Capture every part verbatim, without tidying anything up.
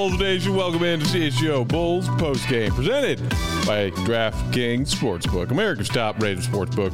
Bulls Nation? Welcome into C H G O Bulls postgame, presented by DraftKings Sportsbook, America's top-rated sportsbook.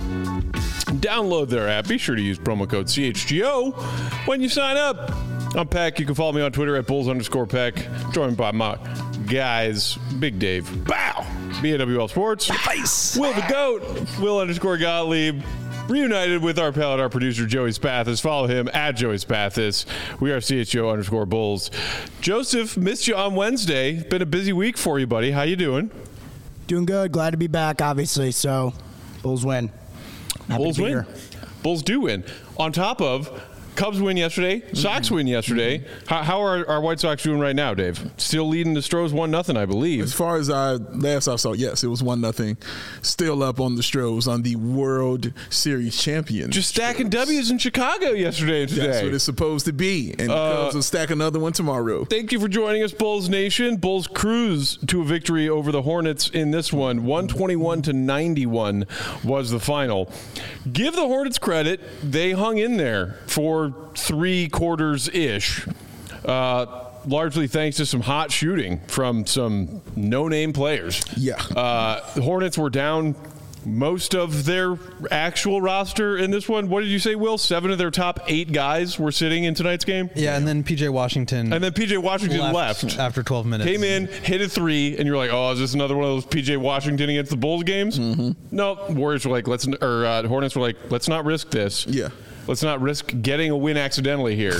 Download their app. Be sure to use promo code C H G O when you sign up. I'm Peck. You can follow me on Twitter at Bulls underscore Peck. Joined by my guys, Big Dave, Bow, B N W L Sports, Nice. Will the Goat, Will underscore Gottlieb. Reunited with our pal and our producer, Joey Spathis. Follow him at Joey Spathis. We are C H G O underscore Bulls. Joseph, missed you on Wednesday. Been a busy week for you, buddy. How you doing? Doing good. Glad to be back, obviously. So, Bulls win. Happy Bulls to be win. here. Bulls do win. On top of Cubs win yesterday. Sox win yesterday. Mm-hmm. How, how are our White Sox doing right now, Dave? Still leading the Stros one nothing, I believe. As far as I last I saw, yes, it was one nothing. Still up on the Stros on the World Series champion. Just stacking Stros. W's in Chicago yesterday and today. That's what it's supposed to be. And the Uh, Cubs will stack another one tomorrow. Thank you for joining us, Bulls Nation. Bulls cruise to a victory over the Hornets in this one. one twenty-one to ninety-one was the final. Give the Hornets credit. They hung in there for three quarters-ish, uh, largely thanks to some hot shooting from some no-name players. Yeah. Uh, the Hornets were down most of their actual roster in this one. What did you say, Will? Seven of their top eight guys were sitting in tonight's game? Yeah, and then P J Washington. And then P J Washington left, left after twelve minutes. Came in, hit a three, and you're like, oh, is this another one of those P J Washington against the Bulls games? Mm-hmm. No, Warriors were like, let's, or uh, Hornets were like, let's not risk this. Yeah. Let's not risk getting a win accidentally here.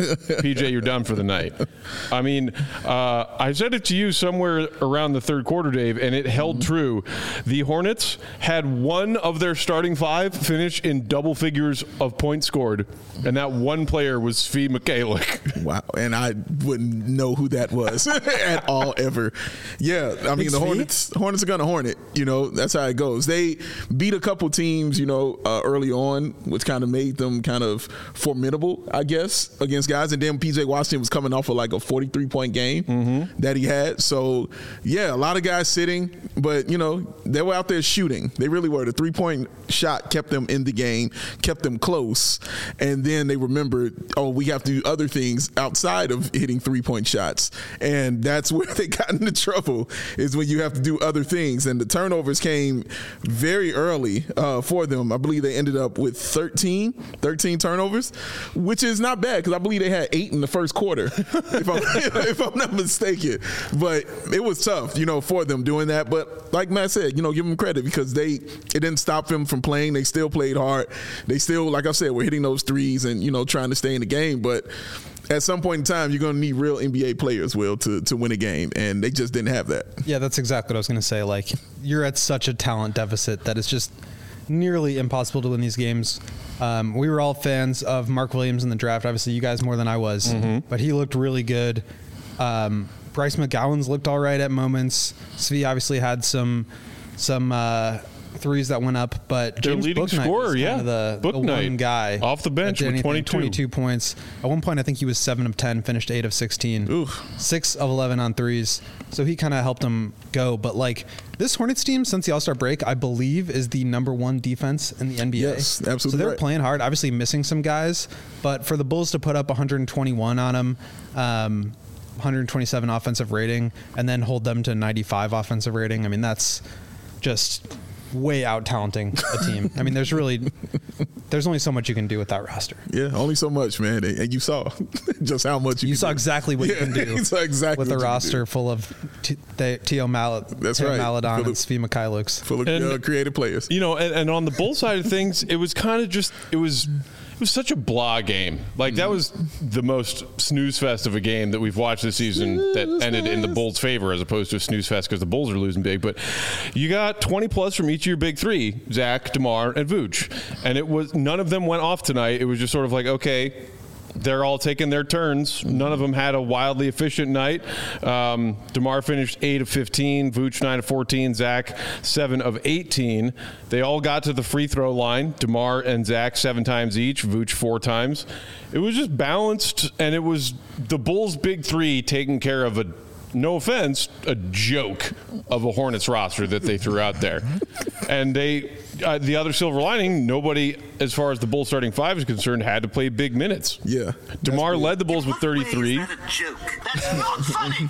P J, you're done for the night. I mean, uh, I said it to you somewhere around the third quarter, Dave, and it held mm-hmm. true. The Hornets had one of their starting five finish in double figures of points scored, and that one player was Svi Mikhailiuk. Wow. And I wouldn't know who that was at all ever. Yeah. I mean, It's the Svi? Hornets Hornets are going to Hornet. You know, that's how it goes. They beat a couple teams, you know, uh, early on, which kind of made them kind of formidable, I guess, against guys. And then P J Washington was coming off of like a forty-three point game mm-hmm. that he had. So, yeah, a lot of guys sitting, but, you know, they were out there shooting. They really were. The three-point shot kept them in the game, kept them close. And then they remembered, oh, we have to do other things outside of hitting three-point shots. And that's where they got into trouble, is when you have to do other things. And the turnovers came very early uh, for them. I believe they ended up with thirteen, thirteen turnovers, which is not bad because I believe they had eight in the first quarter, if, I'm, if I'm not mistaken. But it was tough, you know, for them doing that. But like Matt said, you know, give them credit because they it didn't stop them from playing. They still played hard. They still, like I said, were hitting those threes and, you know, trying to stay in the game. But at some point in time, you're going to need real N B A players, Will, to, to win a game. And they just didn't have that. Yeah, that's exactly what I was going to say. Like, you're at such a talent deficit that it's just nearly impossible to win these games. Um, we were all fans of Mark Williams in the draft. Obviously, you guys more than I was. Mm-hmm. But he looked really good. Um, Bryce McGowan's looked all right at moments. Svi obviously had some some uh, threes that went up, but Their James leading Bouknight scorer, was yeah. kind of the, the Bouknight, one guy off the bench that did with anything. twenty-two. twenty-two points. At one point, I think he was seven of ten, finished eight of sixteen. Oof. six of eleven on threes. So he kind of helped them go. But, like, this Hornets team, since the All-Star break, I believe is the number one defense in the N B A. Yes, absolutely So they're right. playing hard, obviously missing some guys. But for the Bulls to put up one hundred twenty-one on them, um, one hundred twenty-seven offensive rating, and then hold them to ninety-five offensive rating, I mean, that's just way out talenting a team. I mean, there's really, there's only so much you can do with that roster. Yeah, only so much, man. And you saw just how much you You can saw do. exactly what yeah, you can do you saw exactly with a what you can roster do. full of T- the- Tio Mal- That's Tio right. Maladon Full and of- Svi Mikhailiuk. Full of And- uh, creative players. You know, and, and on the Bull side of things, it was kind of just, it was it was such a blah game. Like, that was the most snooze fest of a game that we've watched this season that ended in the Bulls' favor as opposed to a snooze fest because the Bulls are losing big. But you got twenty plus from each of your big three, Zach, DeMar, and Vooch. And it was, none of them went off tonight. It was just sort of like, okay, they're all taking their turns. None of them had a wildly efficient night. Um, DeMar finished eight of fifteen, Vooch nine of fourteen, Zach seven of eighteen. They all got to the free throw line. DeMar and Zach seven times each, Vooch four times. It was just balanced, and it was the Bulls' big three taking care of a, no offense, a joke of a Hornets roster that they threw out there. And they uh, the other silver lining, nobody, as far as the Bulls starting five is concerned, had to play big minutes. Yeah. DeMar led the Bulls with thirty-three. Is that a joke? That's not funny.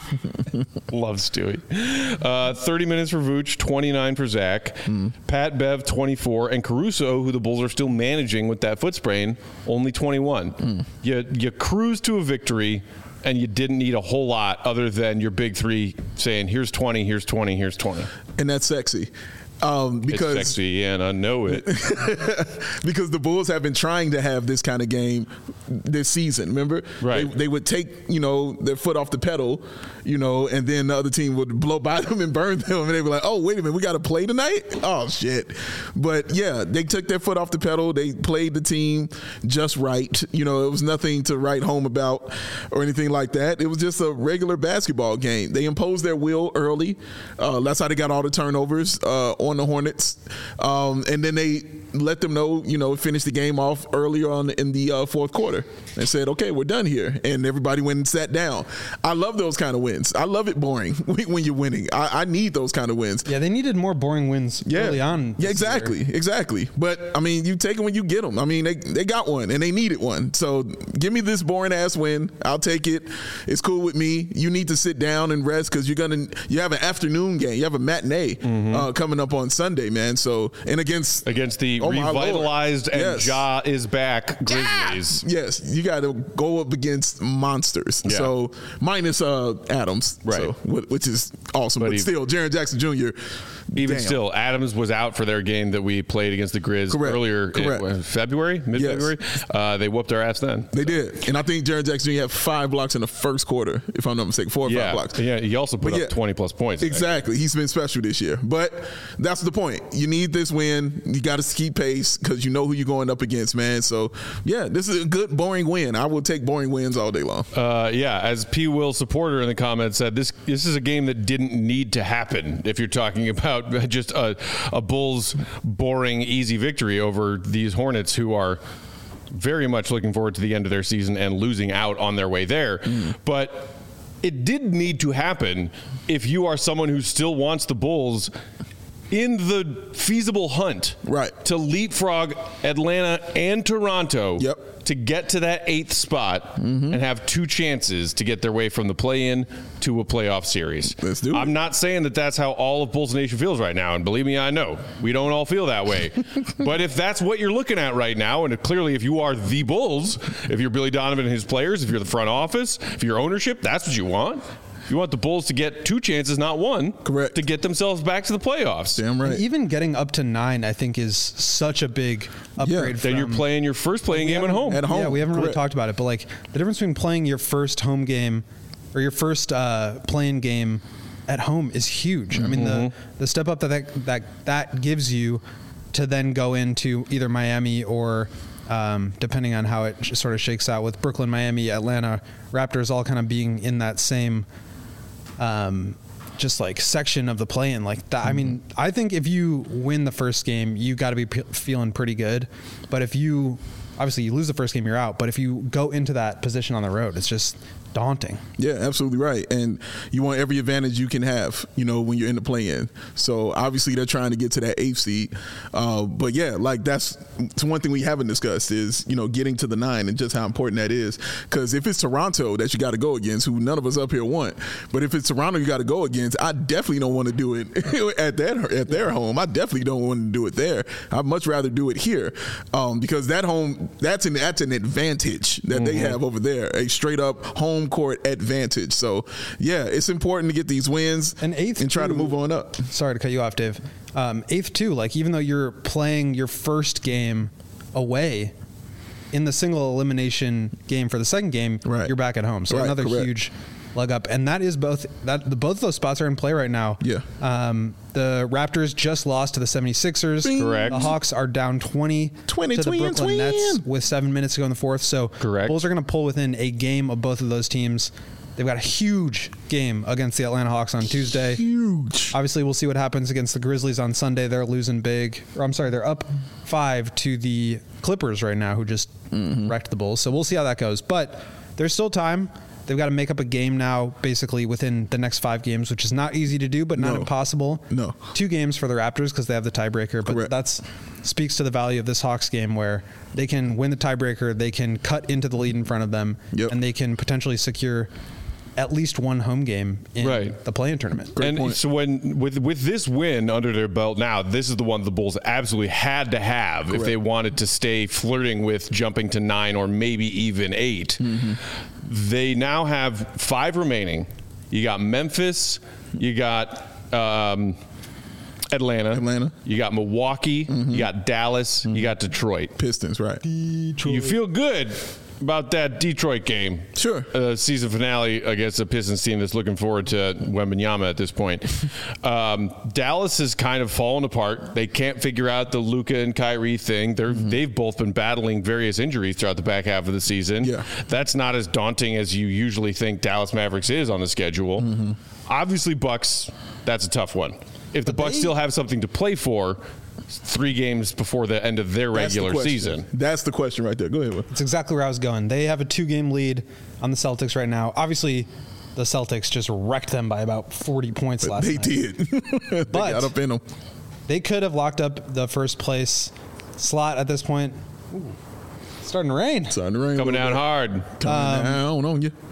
Love Stewie. Uh, thirty minutes for Vooch, twenty-nine for Zach. Mm. Pat Bev, twenty-four. And Caruso, who the Bulls are still managing with that foot sprain, only twenty-one. Mm. You, you cruise to a victory, and you didn't need a whole lot other than your big three saying, here's twenty, here's twenty, here's twenty. And that's sexy. Um, because it's sexy, and I know it. Because the Bulls have been trying to have this kind of game this season. Remember, right? They, they would take you know their foot off the pedal, you know, and then the other team would blow by them and burn them, and they were like, "Oh, wait a minute, we got to play tonight." Oh shit! But yeah, they took their foot off the pedal. They played the team just right. You know, it was nothing to write home about or anything like that. It was just a regular basketball game. They imposed their will early. Uh, that's how they got all the turnovers uh, on the Hornets, um, and then they let them know, you know, finish the game off earlier on in the uh, fourth quarter and said, okay, we're done here. And everybody went and sat down. I love those kind of wins. I love it boring when you're winning. I, I need those kind of wins. Yeah, they needed more boring wins yeah. early on. Yeah, exactly. Year. Exactly. But, I mean, you take them when you get them. I mean, they, they got one and they needed one. So give me this boring ass win. I'll take it. It's cool with me. You need to sit down and rest because you're going to, you have an afternoon game. You have a matinee mm-hmm. uh, coming up on Sunday, man. So, and against, against the oh revitalized and yes. Ja is back Grizzlies. Yeah. Yes, you got to go up against monsters. Yeah. So minus uh, Adams, right? So, which is awesome, but, but he, still, Jaren Jackson Junior Even damn. still, Adams was out for their game that we played against the Grizz Correct. earlier Correct. in February, mid-February. Yes. Uh, they whooped our ass then. They did, and I think Jaren Jackson Junior had five blocks in the first quarter, if I'm not mistaken, four or yeah. five blocks. Yeah, he also put but up yeah, twenty plus points. Exactly, he's been special this year. But that's the point. You need this win. You got to keep pace because you know who you're going up against, man. So yeah, this is a good boring win. I will take boring wins all day long. Uh, yeah, as P. Will supporter in the comments said, this this is a game that didn't need to happen. If you're talking about just a, a Bulls boring easy victory over these Hornets, who are very much looking forward to the end of their season and losing out on their way there, mm. but it did need to happen if you are someone who still wants the Bulls in the feasible hunt right. to leapfrog Atlanta and Toronto yep. to get to that eighth spot mm-hmm. and have two chances to get their way from the play-in to a playoff series. Let's do it. I'm not saying that that's how all of Bulls Nation feels right now, and believe me, I know. We don't all feel that way. But if that's what you're looking at right now, and clearly if you are the Bulls, if you're Billy Donovan and his players, if you're the front office, if you're ownership, that's what you want. You want the Bulls to get two chances, not one. Correct. To get themselves back to the playoffs. Damn right. And even getting up to nine, I think, is such a big upgrade. Yeah. Then you're playing your first playing game at home. At home. Yeah, we haven't Correct. really talked about it, but like the difference between playing your first home game or your first uh, playing game at home is huge. Mm-hmm. I mean, the the step up that, that that that gives you to then go into either Miami or um, depending on how it sort of shakes out with Brooklyn, Miami, Atlanta, Raptors, all kind of being in that same. Um, just like section of the play-in like that. Mm-hmm. I mean, I think if you win the first game, you got to be p- feeling pretty good. But if you, obviously you lose the first game, you're out. But if you go into that position on the road, it's just daunting. Yeah, absolutely right. And you want every advantage you can have, you know, when you're in the play-in. So obviously they're trying to get to that eighth seed. Uh, but yeah, like that's, that's one thing we haven't discussed is, you know, getting to the nine and just how important that is. Because if it's Toronto that you got to go against, who none of us up here want, but if it's Toronto you got to go against, I definitely don't want to do it at that at their home. I definitely don't want to do it there. I'd much rather do it here um, because that home, that's an that's an advantage that mm-hmm. they have over there, a straight up home court advantage. So yeah, it's important to get these wins and eighth and try too, to move on up. Sorry to cut you off, Dave. Um, eighth too, like even though you're playing your first game away in the single elimination game for the second game, right. you're back at home. So right, another correct. huge leg up, and that is both that the, both of those spots are in play right now. Yeah. Um, the Raptors just lost to the seventy-sixers. Bing. Correct. The Hawks are down twenty, twenty to the twin, Brooklyn twin. Nets with seven minutes to go in the fourth. So Correct. Bulls are going to pull within a game of both of those teams. They've got a huge game against the Atlanta Hawks on Tuesday. Huge. Obviously, we'll see what happens against the Grizzlies on Sunday. They're losing big. Or I'm sorry, they're up five to the Clippers right now, who just mm-hmm. wrecked the Bulls. So we'll see how that goes. But there's still time. They've got to make up a game now, basically within the next five games, which is not easy to do, but not No. impossible. No. Two games for the Raptors because they have the tiebreaker, but Correct. that's speaks to the value of this Hawks game where they can win the tiebreaker, they can cut into the lead in front of them, Yep. and they can potentially secure at least one home game in Right. the play-in tournament. Great and point. so when with with this win under their belt now, this is the one the Bulls absolutely had to have if they wanted to stay flirting with jumping to nine or maybe even eight. Mm-hmm. They now have five remaining. You got Memphis, you got um, Atlanta, Atlanta. you got Milwaukee, you got Dallas, you got Detroit. Pistons, right? You feel good about that Detroit game. Sure. Uh, season finale against a Pistons team that's looking forward to Wembanyama at this point. um, Dallas has kind of fallen apart. They can't figure out the Luka and Kyrie thing. They're, Mm-hmm. They've both been battling various injuries throughout the back half of the season. Yeah. That's not as daunting as you usually think Dallas Mavericks is on the schedule. Mm-hmm. Obviously, Bucks, that's a tough one. If the Bucks still have something to play for, three games before the end of their That's the regular question. season. That's the question right there. Go ahead. Will. That's exactly where I was going. They have a two-game lead on the Celtics right now. Obviously, the Celtics just wrecked them by about forty points last They night. did. they But- got up in them. They could have locked up the first place slot at this point. Ooh, it's starting to rain. Starting to rain. a Coming little down bit. hard. Coming down on you.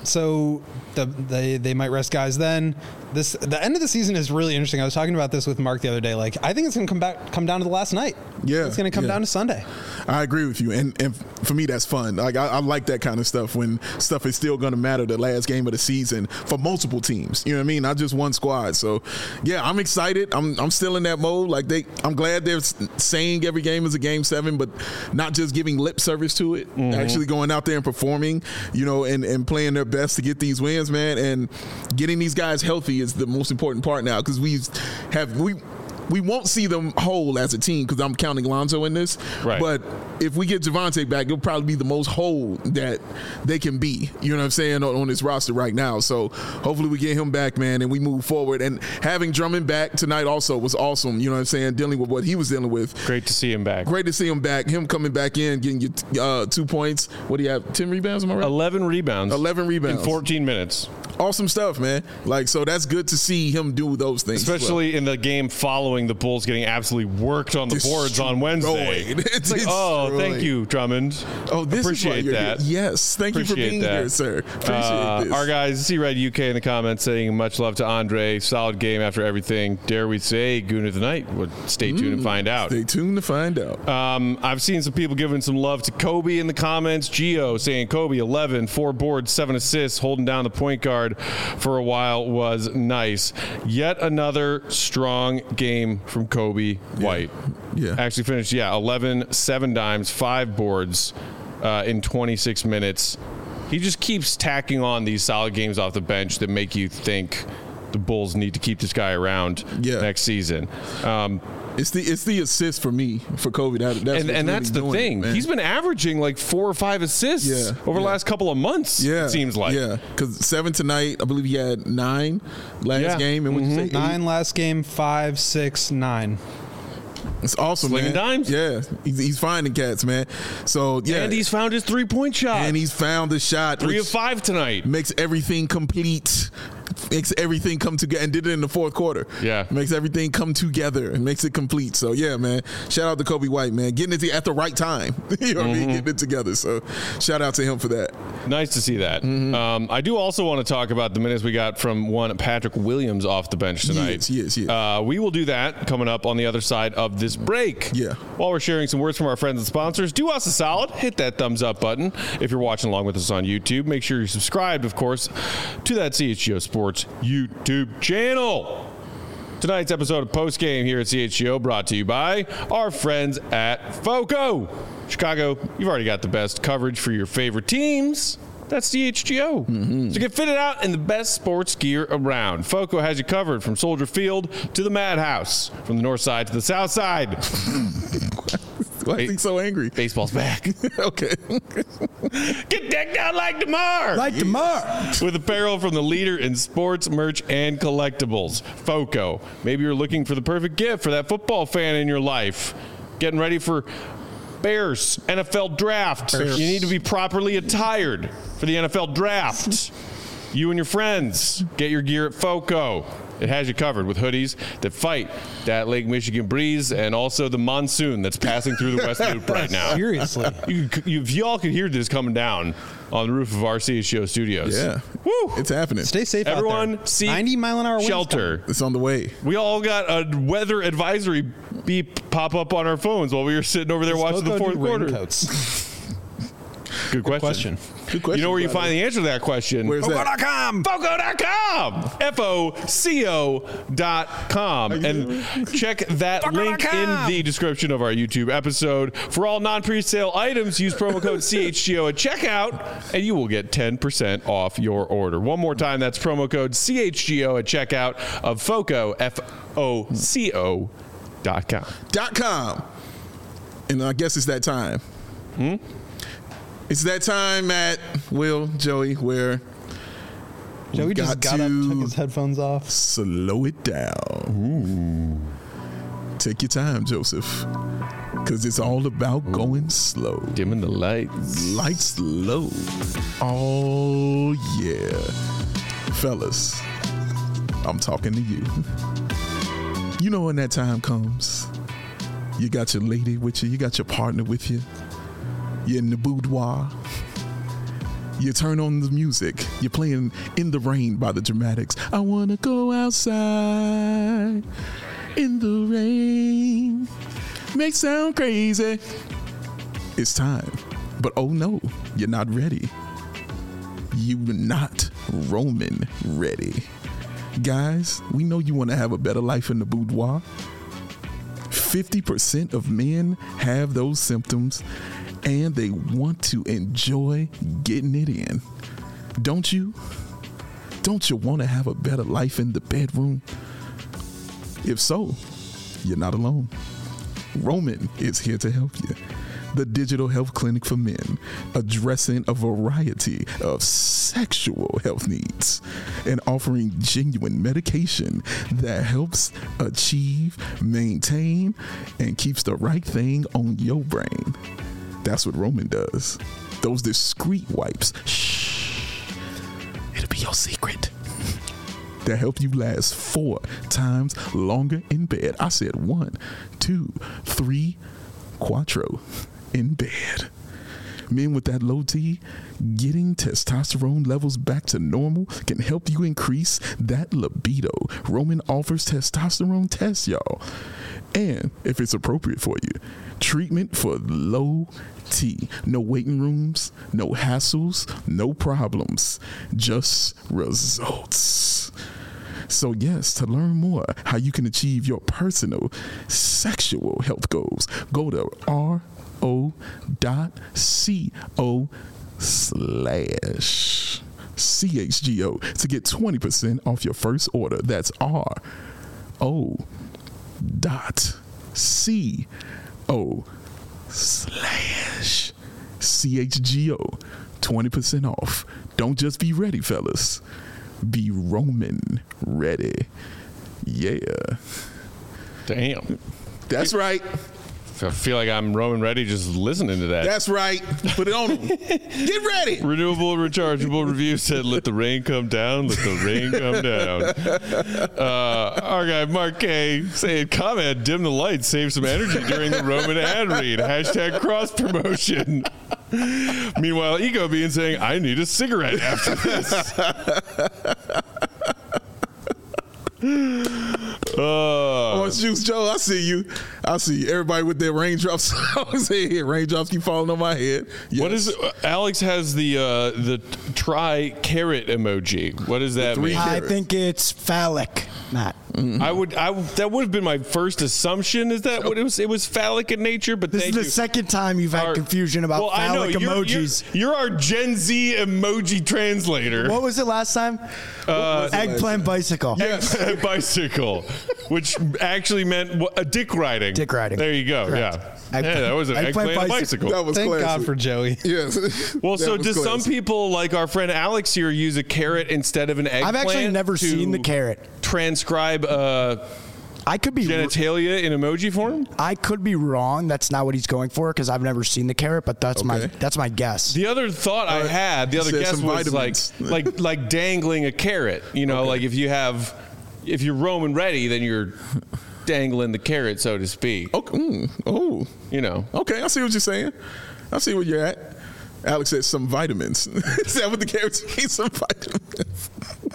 So the, they they might rest guys then. This the end of the season is really interesting. I was talking about this with Mark the other day. Like I think it's going to come back come down to the last night. Yeah, it's going to come yeah. down to Sunday. I agree with you, and and for me that's fun. Like I, I like that kind of stuff when stuff is still going to matter the last game of the season for multiple teams. You know what I mean? Not just one squad. So yeah, I'm excited. I'm I'm still in that mode. Like they, I'm glad they're saying every game is a game seven, but not just giving lip service to it. Mm-hmm. Actually going out there and performing. You know, and and playing their best to get these wins, man. And getting these guys healthy is the most important part now because we have we. We won't see them whole as a team because I'm counting Lonzo in this. Right. But if we get Javante back, it'll probably be the most whole that they can be. You know what I'm saying on, on this roster right now. So hopefully we get him back, man, and we move forward. And having Drummond back tonight also was awesome. You know what I'm saying? Dealing with what he was dealing with. Great to see him back. Great to see him back. Him coming back in, getting you uh, two points. What do you have? Ten rebounds? Am I right? eleven rebounds. eleven rebounds. In fourteen minutes. Awesome stuff, man. Like so, that's good to see him do those things. as well. Especially in the game following the Bulls getting absolutely worked on the boards on Wednesday. Destroyed. It's like, oh, thank Destroyed. you, Drummond. Oh, this Appreciate is why you're that. Here. Yes, thank you for Appreciate being that. here, sir. Appreciate Uh, this. our guys, C-Red U K in the comments saying much love to Andre. Solid game after everything. Dare we say Goon of the Night? Well, stay tuned and find out. Stay tuned to find out. Um, I've seen some people giving some love to Kobe in the comments. Gio saying Kobe eleven, four boards, seven assists, holding down the point guard for a while was nice. Yet another strong game from Kobe White. Yeah. Actually finished, yeah, eleven, seven dimes, five boards uh, in twenty-six minutes. He just keeps tacking on these solid games off the bench that make you think the Bulls need to keep this guy around Yeah. next season. Um, It's the it's the assist for me for Kobe. That, that's and what's and really that's the doing it, thing. man. He's been averaging like four or five assists Yeah, over the yeah. last couple of months. yeah, It seems like. yeah, because seven tonight. I believe he had nine last Yeah. game, and what you say eight? Nine last game, five, six, nine. It's awesome, Slinging man. dimes. Yeah, he's, he's finding cats, man. So yeah, And he's found his three point shot. and he's found the shot. three which of five tonight. makes everything complete. Makes everything come together, and did it in the fourth quarter. Yeah. makes everything come together and makes it complete. So yeah, man, shout out to Kobe White, man, getting it at the right time. you know what I Mm-hmm. mean? Getting it together. So shout out to him for that. Nice to see that. Mm-hmm. Um, I do also want to talk about the minutes we got from one Patrick Williams off the bench tonight. Yes, yes, yes. Uh, we will do that coming up on the other side of this break. Yeah. While we're sharing some words from our friends and sponsors, do us a solid. Hit that thumbs up button. If you're watching along with us on YouTube, make sure you're subscribed, of course, to that C H G O Sports YouTube channel. Tonight's episode of Post Game here at C H G O brought to you by our friends at FOCO. Chicago, you've already got the best coverage for your favorite teams. That's C H G O. Mm-hmm. So get fitted out in the best sports gear around. FOCO has you covered from Soldier Field to the Madhouse, from the north side to the south side. Why is he so angry? Baseball's back. Okay. Get decked out like DeMar. Like DeMar. With apparel from the leader in sports, merch, and collectibles, FOCO. Maybe you're looking for the perfect gift for that football fan in your life. Getting ready for Bears, N F L draft. Bears. You need to be properly attired for the N F L draft. You and your friends, get your gear at FOCO. It has you covered with hoodies that fight that Lake Michigan breeze and also the monsoon that's passing through the West Loop right now. Seriously. You, you, if y'all could hear this coming down on the roof of R C H G O Studios. Yeah. Woo! It's happening. Stay safe Everyone, out there. seek ninety mile an hour winds shelter. It's on the way. We all got a weather advisory beep pop up on our phones while we were sitting over there coming. watching the Foco fourth do quarter. raincoats. Good question. question. Good question. You know where you brother. find the answer to that question? Where's that? Foco dot com. Foco dot com. F O C O dot com. And check that link in the description of our YouTube episode. For all non-presale items, use promo code C H G O at checkout, and you will get ten percent off your order. One more time, that's promo code C H G O at checkout of Foco, F O C O dot com. Dot com. And I guess it's that time. Hmm? It's that time, Matt, Will, Joey, where Joey we just got to up, took his headphones off. slow it down. Ooh. Take your time, Joseph, because it's all about going slow. Dimming the lights. Lights low. Oh, yeah. Fellas, I'm talking to you. You know when that time comes, you got your lady with you, you got your partner with you. You're in the boudoir. You turn on the music. You're playing In the Rain by the Dramatics. I want to go outside in the rain. May sound crazy. It's time. But oh no, you're not ready. You're not Roman ready. Guys, we know you want to have a better life in the boudoir. fifty percent of men have those symptoms, and they want to enjoy getting it in. Don't you? Don't you want to have a better life in the bedroom? If so, you're not alone. Roman is here to help you. The digital health clinic for men, addressing a variety of sexual health needs and offering genuine medication that helps achieve, maintain, and keeps the right thing on your brain. That's what Roman does. Those discreet wipes, shh, it'll be your secret. That help you last four times longer in bed. I said one, two, three, quattro in bed. Men with that low T, getting testosterone levels back to normal can help you increase that libido. Roman offers testosterone tests, y'all. And if it's appropriate for you, treatment for low T. No waiting rooms, no hassles, no problems, just results. So yes, to learn more how you can achieve your personal sexual health goals, go to R O dot C O slash C H G O to get twenty percent off your first order. That's R O dot C O slash C H G O. twenty percent off. Don't just be ready, fellas. Be Roman ready. Yeah. Damn. That's right. I feel like I'm Roman ready just listening to that. That's right. Put it on them. Get ready. Renewable rechargeable review said, let the rain come down, let the rain come down. Uh, our guy Mark K saying, comment, dim the lights, save some energy during the Roman ad read. Hashtag cross promotion. Meanwhile, Ego Bean saying, I need a cigarette after this. Uh, Orange Juice Joe, I see you. I see you. Everybody with their raindrops. I was here. Raindrops keep falling on my head. Yes. What is uh, Alex has the uh, the try carrot emoji. What does that three mean? I carrots. think it's phallic, Matt. I would I would- that would have been my first assumption. Is that what it was? It was phallic in nature, but This thank is the you. second time you've had Our- confusion about well, I know, phallic you're- emojis. You're, you're our Gen Z emoji translator. What was it last time? Uh, Eggplant bicycle. Yes. bicycle, which actually meant what, a dick riding. Dick riding. There you go. Correct. Yeah. Eggplant- yeah, that was an eggplant eggplant, bicycle. bicycle. That was Thank classic. God for Joey. Yes. Well, That so was do some classic. people, like our friend Alex here, use a carrot instead of an eggplant? I've actually never to seen the carrot. Transcribe uh, I could be genitalia in emoji form? I could be wrong. That's not what he's going for because I've never seen the carrot, but that's my Okay. that's my guess. The other thought I Uh, had, the other said guess some was like, vitamins. like, like dangling a carrot. You know, Okay. like if you have, if you're Roman ready, then you're dangling the carrot, so to speak. Okay. Mm, oh. You know. Okay, I see what you're saying. I see where you're at. Alex said some vitamins. Is that what the carrots mean? Some vitamins.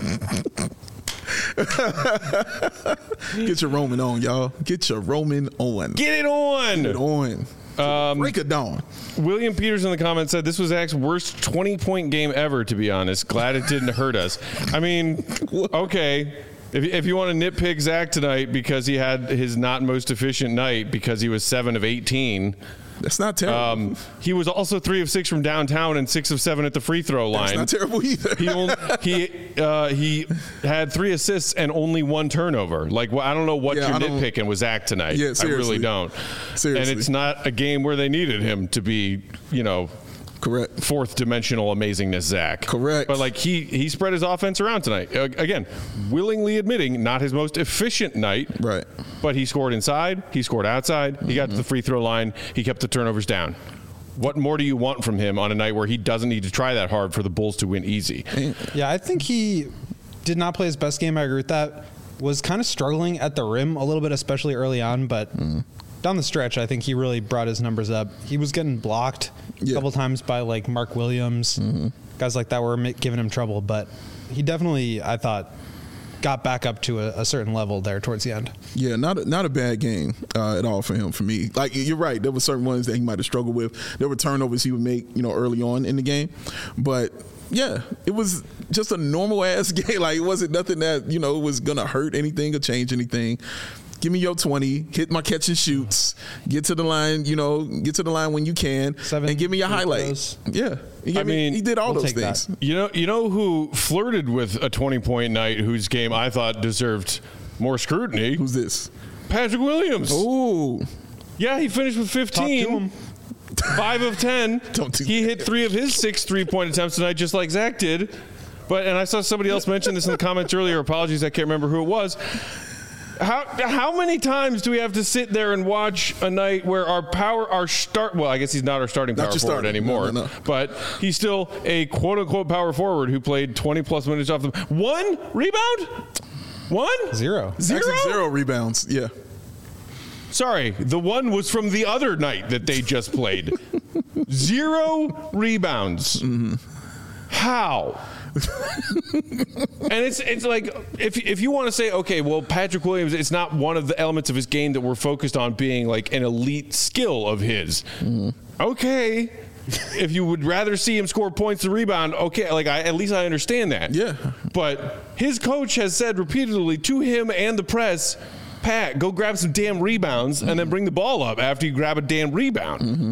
Get your Roman on, y'all. Get your Roman on. Get it on. Get it on. Um, Break it down. William Peters in the comments said this was Zach's worst twenty-point game ever, to be honest. Glad it didn't hurt us. I mean, okay. If, if you want to nitpick Zach tonight because he had his not most efficient night because he was seven of eighteen. That's not terrible. Um, he was also three of six from downtown and six of seven at the free throw line. That's not terrible either. he only, he uh, he had three assists and only one turnover. Like, well, I don't know what Yeah, you're I don't- nitpicking with Zach tonight. Yeah, I seriously. really don't. Seriously. And it's not a game where they needed him to be, you know, Correct. fourth dimensional amazingness Zach. Correct. But like he he spread his offense around tonight. Uh, again, willingly admitting not his most efficient night. Right. But he scored inside. He scored outside. He got to the free throw line. He kept the turnovers down. What more do you want from him on a night where he doesn't need to try that hard for the Bulls to win easy? Yeah, I think he did not play his best game. I agree with that. Was kind of struggling at the rim a little bit, especially early on, but mm. down the stretch, I think he really brought his numbers up. He was getting blocked Yeah. a couple times by like Mark Williams, mm-hmm. guys like that were giving him trouble, but he definitely, I thought, got back up to a, a certain level there towards the end. Yeah, not a, not a bad game uh, at all for him. For me, like you're right, there were certain ones that he might have struggled with. There were turnovers he would make, you know, early on in the game, but yeah, it was just a normal ass game. Like it wasn't nothing that you know was gonna hurt anything or change anything. Give me your twenty, hit my catch and shoots, get to the line, you know, get to the line when you can, Seven and give me your highlights. Yeah, he I mean, he did all we'll those take that. things. You know, you know who flirted with a twenty-point night, whose game I thought deserved more scrutiny? Who's this? Patrick Williams. Oh, Yeah, he finished with Talk to fifteen. him. Five of ten. Don't do he that. hit three of his six three-point attempts tonight, just like Zach did. But and I saw somebody else mention this in the comments earlier. Apologies, I can't remember who it was. How how many times do we have to sit there and watch a night where our power, our start? Well, I guess he's not our starting Not power your forward starter. anymore. No, no, no. But he's still a quote unquote power forward who played twenty plus minutes off the one rebound. One Zero. Zero. Actually, zero rebounds. Yeah. Sorry, the one was from the other night that they just played. Zero rebounds. Mm-hmm. How? And it's it's like if if you want to say, okay, well, Patrick Williams, it's not one of the elements of his game that we're focused on being like an elite skill of his. Mm-hmm. Okay. If you would rather see him score points and rebound, okay, like I, at least I understand that. Yeah. But his coach has said repeatedly to him and the press, Pat, go grab some damn rebounds and then bring the ball up after you grab a damn rebound. Mm-hmm.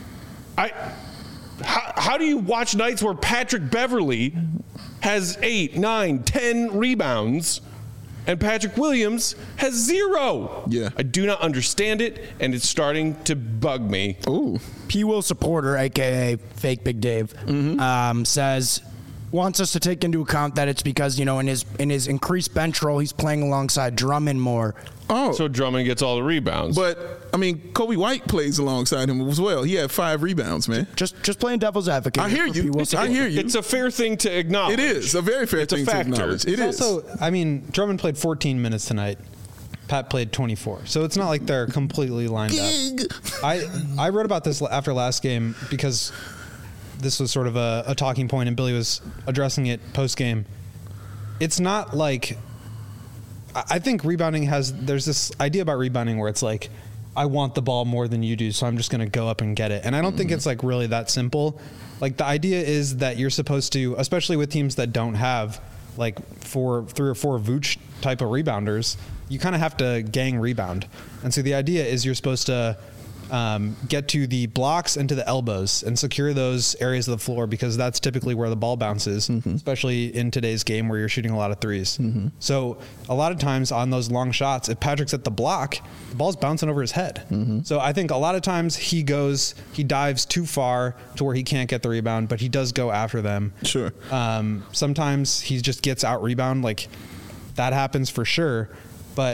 I, how, how do you watch nights where Patrick Beverly has eight, nine, ten rebounds and Patrick Williams has zero? Yeah. I do not understand it, and it's starting to bug me. Ooh. P. Will supporter, aka Fake Big Dave, um, says wants us to take into account that it's because you know in his in his increased bench role he's playing alongside Drummond more. Oh. So Drummond gets all the rebounds. But I mean, Kobe White plays alongside him as well. He had five rebounds, man. Just just playing devil's advocate. I hear for you. P. Will I supporter. hear you. it's a fair thing to acknowledge. It is a very fair It's a thing factor. to acknowledge. It It's is. also, I mean, Drummond played fourteen minutes tonight. Pat played twenty-four. So it's not like they're completely lined up. I I wrote about this after last game because this was sort of a, a talking point and Billy was addressing it post game. It's not like I I think rebounding has there's this idea about rebounding where it's like I want the ball more than you do, so I'm just going to go up and get it. And I don't mm. think it's like really that simple. Like the idea is that you're supposed to, especially with teams that don't have like four, three or four Vooch type of rebounders, you kind of have to gang rebound. And so the idea is you're supposed to um, get to the blocks and to the elbows and secure those areas of the floor because that's typically where the ball bounces, mm-hmm. especially in today's game where you're shooting a lot of threes. Mm-hmm. So a lot of times on those long shots, if Patrick's at the block, the ball's bouncing over his head. Mm-hmm. So I think a lot of times he goes, he dives too far to where he can't get the rebound, but he does go after them. Sure. Um, sometimes he just gets out rebound, like that happens for sure. But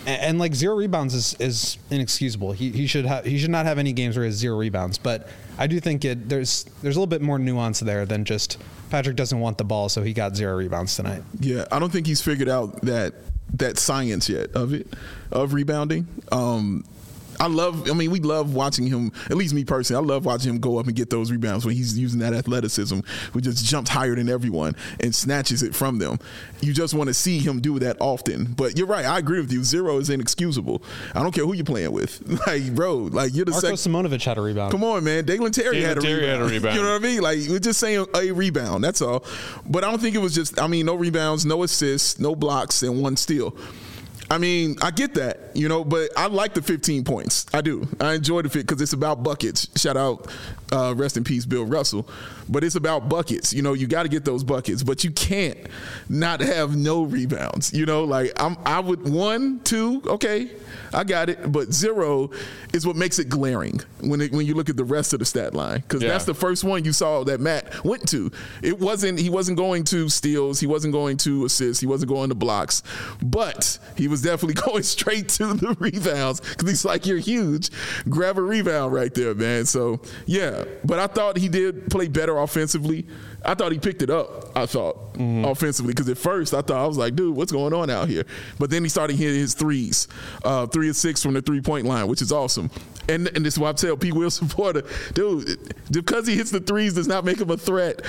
and, and like zero rebounds is, is inexcusable. He he should have he should not have any games where he has zero rebounds. But I do think it there's there's a little bit more nuance there than just Patrick doesn't want the ball, so he got zero rebounds tonight. Yeah, I don't think he's figured out that that science yet of it, of rebounding. Um, I love, I mean, we love watching him, at least me personally, I love watching him go up and get those rebounds when he's using that athleticism, who just jumps higher than everyone and snatches it from them. You just want to see him do that often. But you're right, I agree with you. Zero is inexcusable. I don't care who you're playing with. Like, bro, like you're the Marko second. Simonovic had a rebound. Come on, man. Dalen Terry, Dalen had, a Terry had a rebound. You know what I mean? Like, we're just saying a rebound. That's all. But I don't think it was just, I mean, no rebounds, no assists, no blocks, and one steal. I mean, I get that, you know, but I like the fifteen points. I do. I enjoy the fit because it's about buckets. Shout out, uh, rest in peace, Bill Russell. But it's about buckets. You know, you got to get those buckets, but you can't not have no rebounds. You know, like I'm, I would one, two, okay, I got it. But zero is what makes it glaring when it, when you look at the rest of the stat line, because Yeah. that's the first one you saw that Matt went to. It wasn't. He wasn't going to steals. He wasn't going to assists. He wasn't going to blocks. But he was definitely going straight to the rebounds because he's like, you're huge. Grab a rebound right there, man. So yeah. But I thought he did play better offensively. I thought he picked it up, I thought, mm-hmm. offensively. Because at first I thought, I was like, dude, what's going on out here? But then he started hitting his threes. Uh, three of six from the three-point line, which is awesome. And, and this is why I tell P. Will supporter, dude, because he hits the threes does not make him a threat.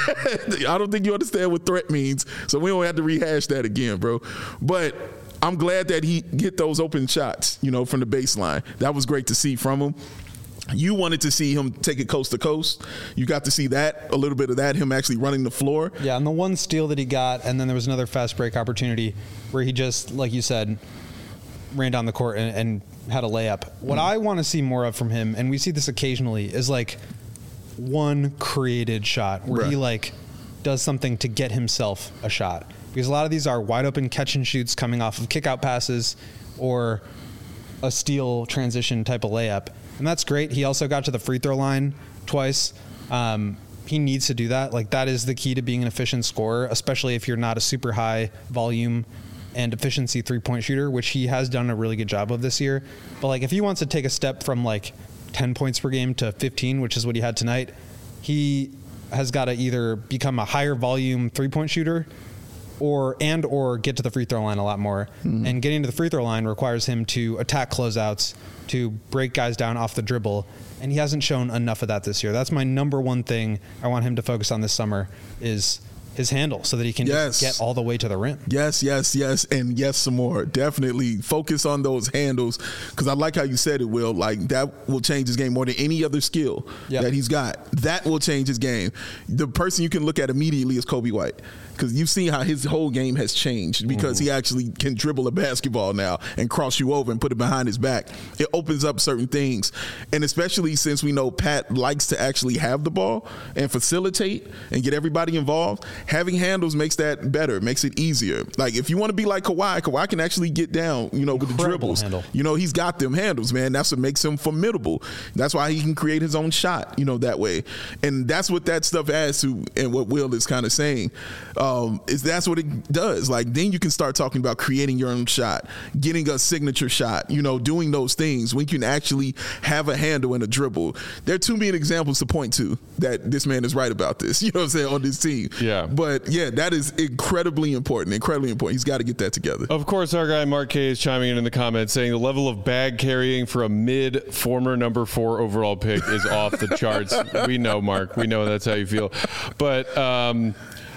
I don't think you understand what threat means. So we don't have to rehash that again, bro. But I'm glad that he hit those open shots, you know, from the baseline. That was great to see from him. You wanted to see him take it coast to coast. You got to see that, a little bit of that, him actually running the floor. Yeah, and the one steal that he got, and then there was another fast break opportunity where he just, like you said, ran down the court and, and had a layup. What mm. I want to see more of from him, and we see this occasionally, is like one created shot where right. he like does something to get himself a shot. Because a lot of these are wide open catch and shoots coming off of kick out passes or a steal transition type of layup. And that's great. He also got to the free throw line twice. Um, he needs to do that. Like, that is the key to being an efficient scorer, especially if you're not a super high volume and efficiency three-point shooter, which he has done a really good job of this year. But, like, if he wants to take a step from, like, ten points per game to fifteen, which is what he had tonight, he has got to either become a higher volume three-point shooter or and or get to the free throw line a lot more. Mm-hmm. And getting to the free throw line requires him to attack closeouts, to break guys down off the dribble, and he hasn't shown enough of that this year. That's my number one thing I want him to focus on this summer is his handle, so that he can yes. just get all the way to the rim. Yes, yes, yes, and yes, some more. Definitely focus on those handles, because I like how you said it, Will. Like, that will change his game more than any other skill yep. that he's got. That will change his game. The person you can look at immediately is Kobe White, because you've seen how his whole game has changed because mm. he actually can dribble a basketball now and cross you over and put it behind his back. It opens up certain things, and especially since we know Pat likes to actually have the ball and facilitate and get everybody involved, having handles makes that better, makes it easier. Like, if you want to be like Kawhi, Kawhi can actually get down, you know, Incredible with the dribbles. Handle. You know, he's got them handles, man. That's what makes him formidable. That's why he can create his own shot, you know, that way. And that's what that stuff adds to, and what Will is kind of saying. Um, is that's what it does. Like, then you can start talking about creating your own shot, getting a signature shot, you know, doing those things when you can actually have a handle and a dribble. There are too many examples to point to that this man is right about this, you know what I'm saying, on this team. Yeah. But yeah, that is incredibly important, incredibly important. He's got to get that together. Of course, our guy Mark K is chiming in in the comments saying the level of bag carrying for a mid former number four overall pick is off the charts. We know, Mark. We know that's how you feel. But, um,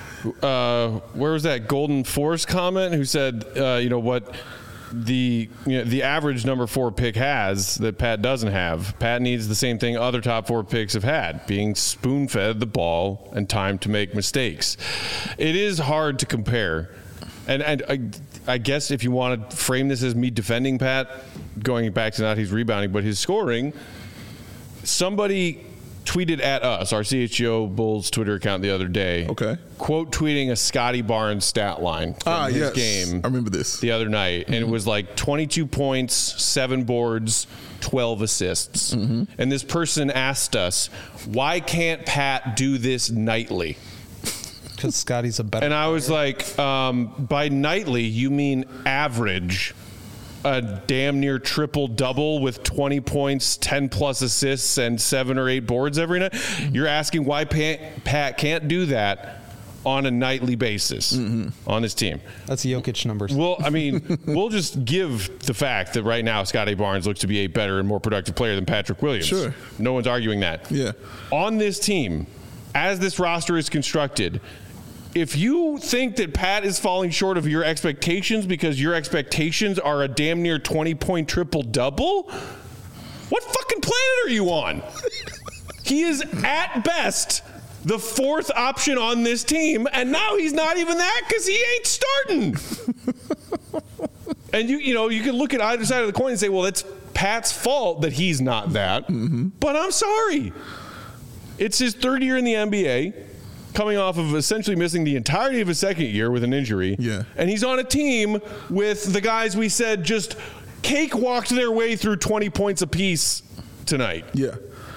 Uh, where was that Golden Force comment who said, uh, you know, what the you know, the average number four pick has that Pat doesn't have. Pat needs the same thing other top four picks have had, being spoon-fed the ball and time to make mistakes. It is hard to compare. And, and I, I guess if you want to frame this as me defending Pat, going back to not he's rebounding, but his scoring, somebody tweeted at us, our C H G O Bulls Twitter account the other day. Okay. Quote tweeting a Scotty Barnes stat line from ah, his yes. game. I remember this. The other night. Mm-hmm. And it was like twenty-two points, seven boards, twelve assists. Mm-hmm. And this person asked us, why can't Pat do this nightly? Because Scotty's a better And I was player. like, um, by nightly, you mean average. a damn near triple double with twenty points, ten plus assists, and seven or eight boards every night. You're asking why Pat, Pat can't do that on a nightly basis mm-hmm. on his team. That's Jokic numbers. Well, I mean, we'll just give the fact that right now Scotty Barnes looks to be a better and more productive player than Patrick Williams. Sure. No one's arguing that. Yeah. On this team, as this roster is constructed, if you think that Pat is falling short of your expectations because your expectations are a damn near twenty-point triple-double, what fucking planet are you on? He is, at best, the fourth option on this team, and now he's not even that because he ain't starting. And you you know, you can look at either side of the coin and say, well, it's Pat's fault that he's not that. Mm-hmm. But I'm sorry. It's his third year in the N B A, coming off of essentially missing the entirety of his second year with an injury. Yeah. And he's on a team with the guys we said just cakewalked their way through twenty points apiece tonight. Yeah.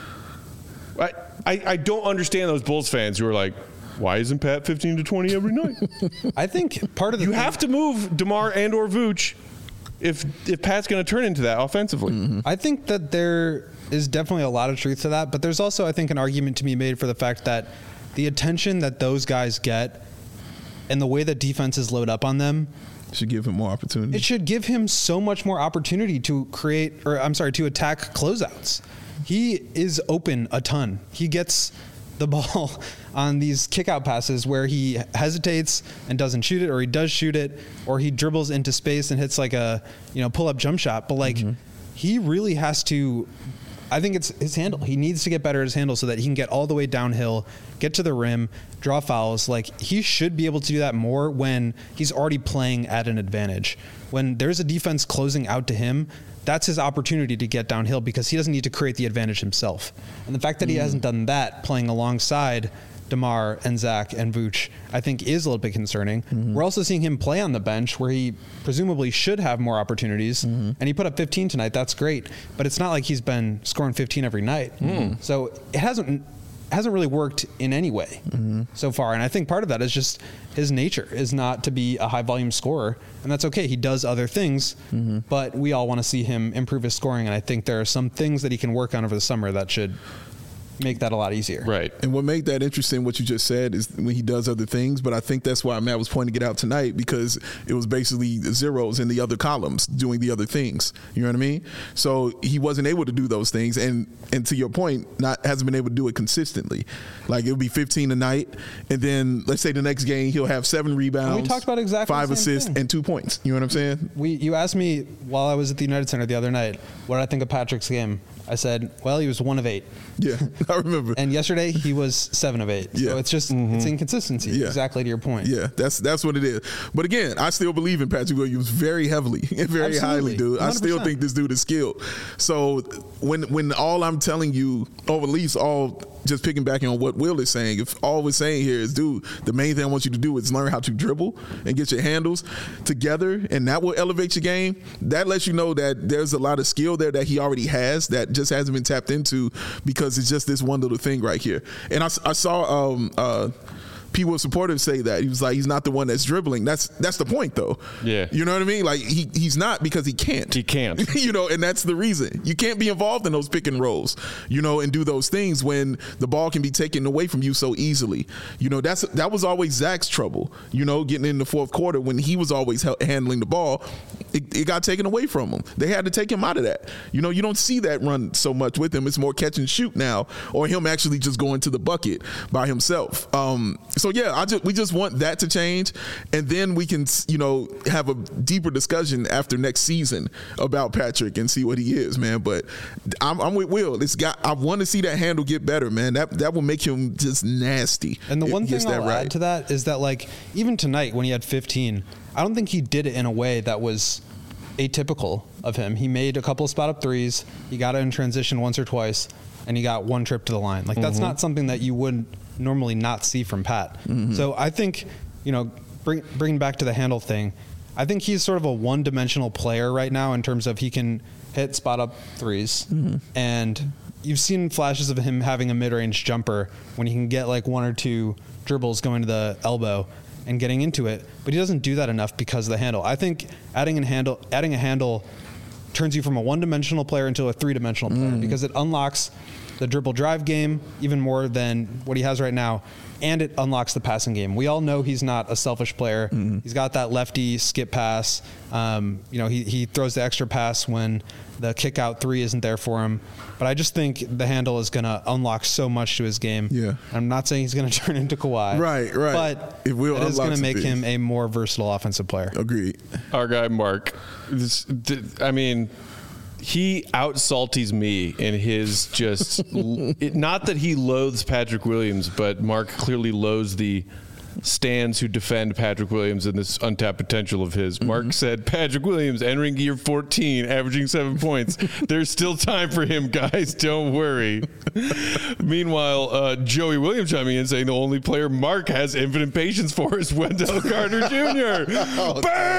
I, I, I don't understand those Bulls fans who are like, why isn't Pat fifteen to twenty every night? I think part of the you thing, have to move DeMar and or Vooch if if Pat's going to turn into that offensively. Mm-hmm. I think that there is definitely a lot of truth to that, but there's also, I think, an argument to be made for the fact that the attention that those guys get and the way that defenses load up on them should give him more opportunity. It should give him so much more opportunity to create, or I'm sorry, to attack closeouts. He is open a ton. He gets the ball on these kick-out passes where he hesitates and doesn't shoot it, or he does shoot it, or he dribbles into space and hits like a, you know, pull-up jump shot. But like, mm-hmm. he really has to, I think it's his handle. He needs to get better at his handle so that he can get all the way downhill, get to the rim, draw fouls. Like, he should be able to do that more when he's already playing at an advantage. When there's a defense closing out to him, that's his opportunity to get downhill because he doesn't need to create the advantage himself. And the fact that he mm. hasn't done that playing alongside DeMar and Zach and Vooch, I think is a little bit concerning. Mm-hmm. We're also seeing him play on the bench where he presumably should have more opportunities. Mm-hmm. And he put up fifteen tonight. That's great. But it's not like he's been scoring fifteen every night. Mm. So it hasn't hasn't really worked in any way mm-hmm. so far. And I think part of that is just his nature is not to be a high volume scorer. And that's okay. He does other things, mm-hmm. but we all want to see him improve his scoring. And I think there are some things that he can work on over the summer that should make that a lot easier. Right. And what made that interesting, what you just said, is when he does other things. But I think that's why Matt was pointing it out tonight, because it was basically zeros in the other columns doing the other things. You know what I mean? So he wasn't able to do those things. And and to your point, not hasn't been able to do it consistently. Like, it'll be fifteen a night. And then let's say the next game he'll have seven rebounds. And we talked about exactly five the same assists thing. and two points. You know what I'm saying? We You asked me while I was at the United Center the other night, what did I think of Patrick's game? I said, well, he was one of eight. Yeah, I remember. And yesterday he was seven of eight. Yeah. So it's just mm-hmm. it's inconsistency. Yeah. Exactly to your point. Yeah, that's that's what it is. But again, I still believe in Patrick Williams very heavily and very Absolutely. highly, dude. one hundred percent. I still think this dude is skilled. So when when all I'm telling you, or at least all just picking back on what Will is saying, if all we're saying here is, dude, the main thing I want you to do is learn how to dribble and get your handles together, and that will elevate your game. That lets you know that there's a lot of skill there that he already has that just hasn't been tapped into because it's just this one little thing right here. And I, I saw um, uh, P. Will supporters say that. He was like, he's not the one that's dribbling. That's that's the point, though. Yeah. You know what I mean? Like, he he's not because he can't. He can't. You know, and that's the reason. You can't be involved in those pick and rolls, you know, and do those things when the ball can be taken away from you so easily. You know, that's that was always Zach's trouble, you know, getting in the fourth quarter when he was always ha- handling the ball. It, it got taken away from him. They had to take him out of that. You know, you don't see that run so much with him. It's more catch and shoot now, or him actually just going to the bucket by himself. Um, so, yeah, I just, we just want that to change. And then we can, you know, have a deeper discussion after next season about Patrick and see what he is, man. But I'm, I'm with Will. It's got, I want to see that handle get better, man. That that will make him just nasty. And the one thing that I'll right. add to that is that, like, even tonight when he had fifteen, I don't think he did it in a way that was atypical of him. He made a couple of spot up threes. He got it in transition once or twice, and he got one trip to the line. Like, that's mm-hmm. not something that you would normally not see from Pat. Mm-hmm. So I think, you know, bring, bringing back to the handle thing, I think he's sort of a one-dimensional player right now in terms of he can hit spot up threes. Mm-hmm. And you've seen flashes of him having a mid-range jumper when he can get like one or two dribbles going to the elbow. and getting into it, but he doesn't do that enough because of the handle. I think adding a handle, adding a handle turns you from a one-dimensional player into a three-dimensional player mm. because it unlocks the dribble drive game even more than what he has right now, and it unlocks the passing game. We all know he's not a selfish player. Mm-hmm. He's got that lefty skip pass. Um, you know, he, he throws the extra pass when the kick out three isn't there for him. But I just think the handle is going to unlock so much to his game. Yeah. I'm not saying he's going to turn into Kawhi. Right, right. But it, will it is going to make things. him a more versatile offensive player. Agreed. Our guy, Mark. This, I mean... He out-salties me in his just it, not that he loathes Patrick Williams, but Mark clearly loathes the stands who defend Patrick Williams and this untapped potential of his. Mm-hmm. Mark said, Patrick Williams entering year fourteen, averaging seven points. There's still time for him, guys. Don't worry. Meanwhile, uh, Joey Williams chiming in saying the only player Mark has infinite patience for is Wendell Carter Junior Oh,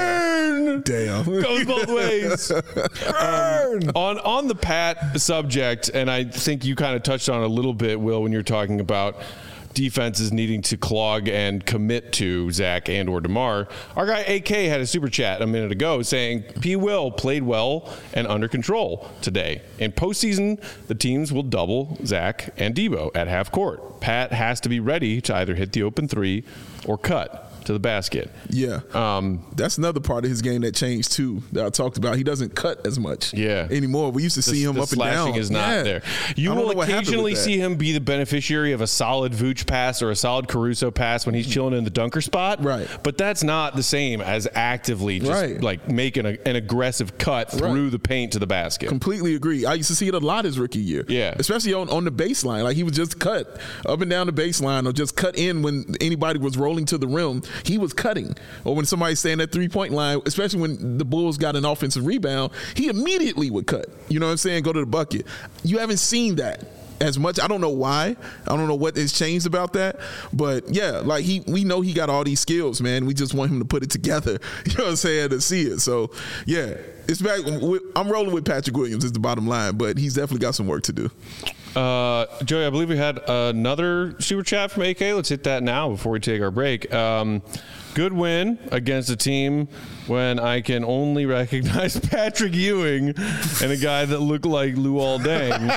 Burn! Damn. Goes both ways. Burn! Um, on, on the Pat subject, and I think you kind of touched on it a little bit, Will, when you're talking about defenses needing to clog and commit to Zach and or DeMar. Our guy A K had a super chat a minute ago saying P. Will played well and under control today. In postseason, the teams will double Zach and Debo at half court. Pat has to be ready to either hit the open three or cut to the basket. Yeah. Um, That's another part of his game that changed too that I talked about. He doesn't cut as much yeah. anymore. We used to see the, him the up and down. Slashing is not yeah. there. You will occasionally see him be the beneficiary of a solid Vooch pass or a solid Caruso pass when he's chilling in the dunker spot. Right. But that's not the same as actively just right. like making a, an aggressive cut through right. the paint to the basket. Completely agree. I used to see it a lot his rookie year. Yeah. Especially on, on the baseline. Like he would just cut up and down the baseline or just cut in when anybody was rolling to the rim. He was cutting. Or when somebody's staying at three-point line, especially when the Bulls got an offensive rebound, he immediately would cut. You know what I'm saying? Go to the bucket. You haven't seen that as much. I don't know why. I don't know what has changed about that. But, yeah, like he, we know he got all these skills, man. We just want him to put it together, you know what I'm saying, to see it. So, yeah, it's back. I'm rolling with Patrick Williams is the bottom line, but he's definitely got some work to do. Uh, Joey, I believe we had another super chat from A K. Let's hit that now before we take our break. Um, good win against a team when I can only recognize Patrick Ewing and a guy that looked like Luol Deng,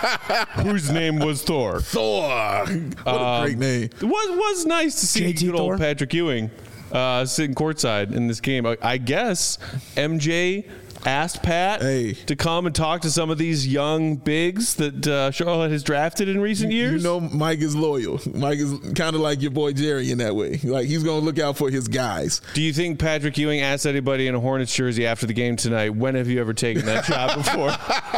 whose name was Thor. Thor. What a um, great name. It was, was nice to see J T good old Thor? Patrick Ewing uh, sitting courtside in this game. I, I guess M J asked Pat hey. to come and talk to some of these young bigs that uh, Charlotte has drafted in recent years. You know Mike is loyal. Mike is kind of like your boy Jerry in that way. Like he's going to look out for his guys. Do you think Patrick Ewing asked anybody in a Hornets jersey after the game tonight, when have you ever taken that shot before?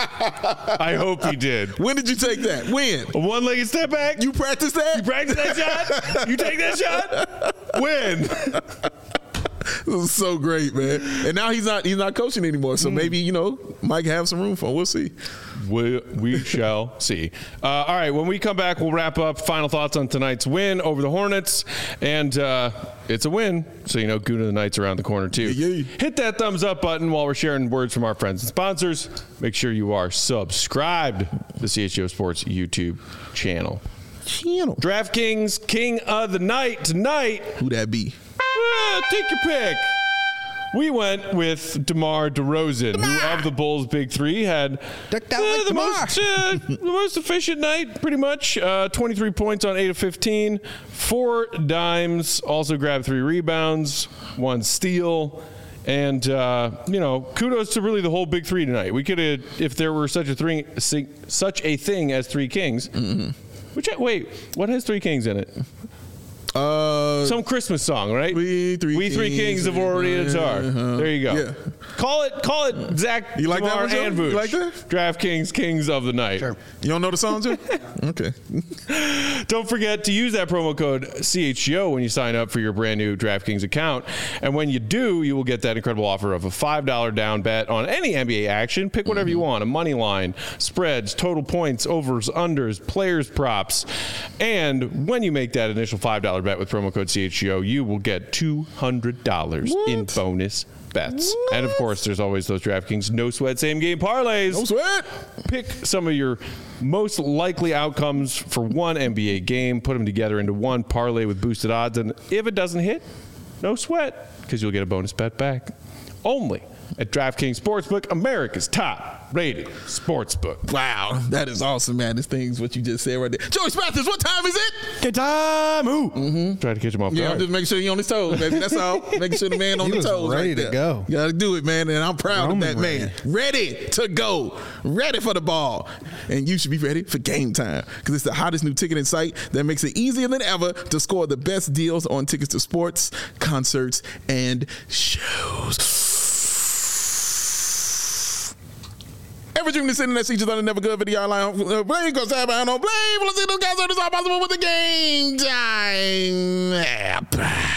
I hope he did. When did you take that? When? A one-legged step back? You practiced that? You practiced that shot? You take that shot? When? This is so great, man. And now he's not he's not coaching anymore. So maybe, you know, Mike have some room for him. We'll see. We, we shall see. Uh, all right, when we come back, we'll wrap up final thoughts on tonight's win over the Hornets. And uh, it's a win, so you know Goon of the Night's around the corner, too. Yeah, yeah. Hit that thumbs up button while we're sharing words from our friends and sponsors. Make sure you are subscribed to the C H G O Sports YouTube channel. Channel. DraftKings King of the Night tonight. Who that be? Uh, take your pick. We went with DeMar DeRozan, DeMar. who of the Bulls' big three had uh, the, most, uh, the most efficient night, pretty much. Uh, twenty-three points on eight of fifteen, four dimes, also grabbed three rebounds, one steal. And, uh, you know, kudos to really the whole big three tonight. We could have, if there were such a, three, such a thing as Three Kings. Mm-hmm. Which, wait, what has Three Kings in it? Uh, Some Christmas song, right? We Three, we three Kings, Kings of Orientar. Uh-huh. There you go. Yeah. Call it, call it Zach, you like DeMar, that one, and Vooch. You like that? DraftKings Kings of the Night. Sure. You don't know the songs yet? Okay. Don't forget to use that promo code C H G O when you sign up for your brand new DraftKings account. And when you do, you will get that incredible offer of a five dollars down bet on any N B A action. Pick whatever mm-hmm. you want. A money line, spreads, total points, overs, unders, players, props. And when you make that initial five dollars bet with promo code C H G O, you will get two hundred dollars what? in bonus bets. What? And of course, there's always those DraftKings no sweat same game parlays. No sweat. Pick some of your most likely outcomes for one N B A game, put them together into one parlay with boosted odds, and if it doesn't hit, No sweat, because you'll get a bonus bet back. Only at DraftKings Sportsbook, America's top-rated sportsbook. Wow, that is awesome, man. This thing's what you just said right there. Joey Spathis, what time is it? Good time. Ooh. Mm-hmm. Try to catch him off Yeah, I'm guard. just making sure you're on his toes, baby. That's all. Making sure the man on He the was toes. ready right to there. go. You gotta do it, man. And I'm proud Roman of that man. Ready to go. Ready for the ball. And you should be ready for game time. Because it's the hottest new ticketing site that makes it easier than ever to score the best deals on tickets to sports, concerts, and shows. Ever dreamed of sitting that seat on a never good video line? Blame goes out on Blame. Let's see those guys are all possible with the Game Time app.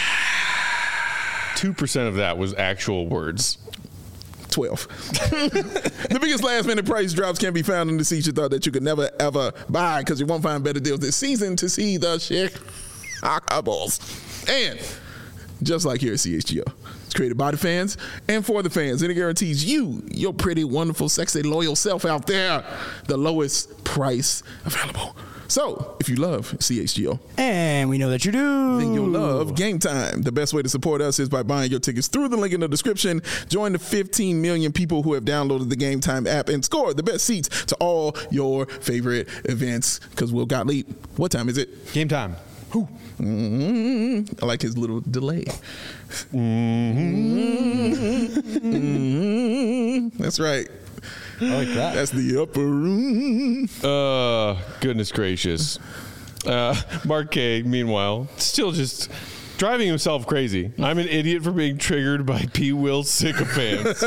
Two percent of that was actual words. twelve. The biggest last minute price drops can be found in the seats you thought that you could never ever buy because you won't find better deals this season to see the Chicago Bulls. And just like here at C H G O, it's created by the fans and for the fans, and it guarantees you, your pretty, wonderful, sexy, loyal self out there, the lowest price available. So, if you love C H G O, And we know that you do. then you'll love Game Time. The best way to support us is by buying your tickets through the link in the description. Join the fifteen million people who have downloaded the Game Time app and score the best seats to all your favorite events. Because Will Gottlieb, what time is it? Game time. Who? Mm-hmm. I like his little delay. Mm-hmm. Mm-hmm. That's right. I like that. That's the upper room. Uh, goodness gracious. Uh, Mark K, meanwhile, still just driving himself crazy. I'm an idiot for being triggered by P. Will sycophants.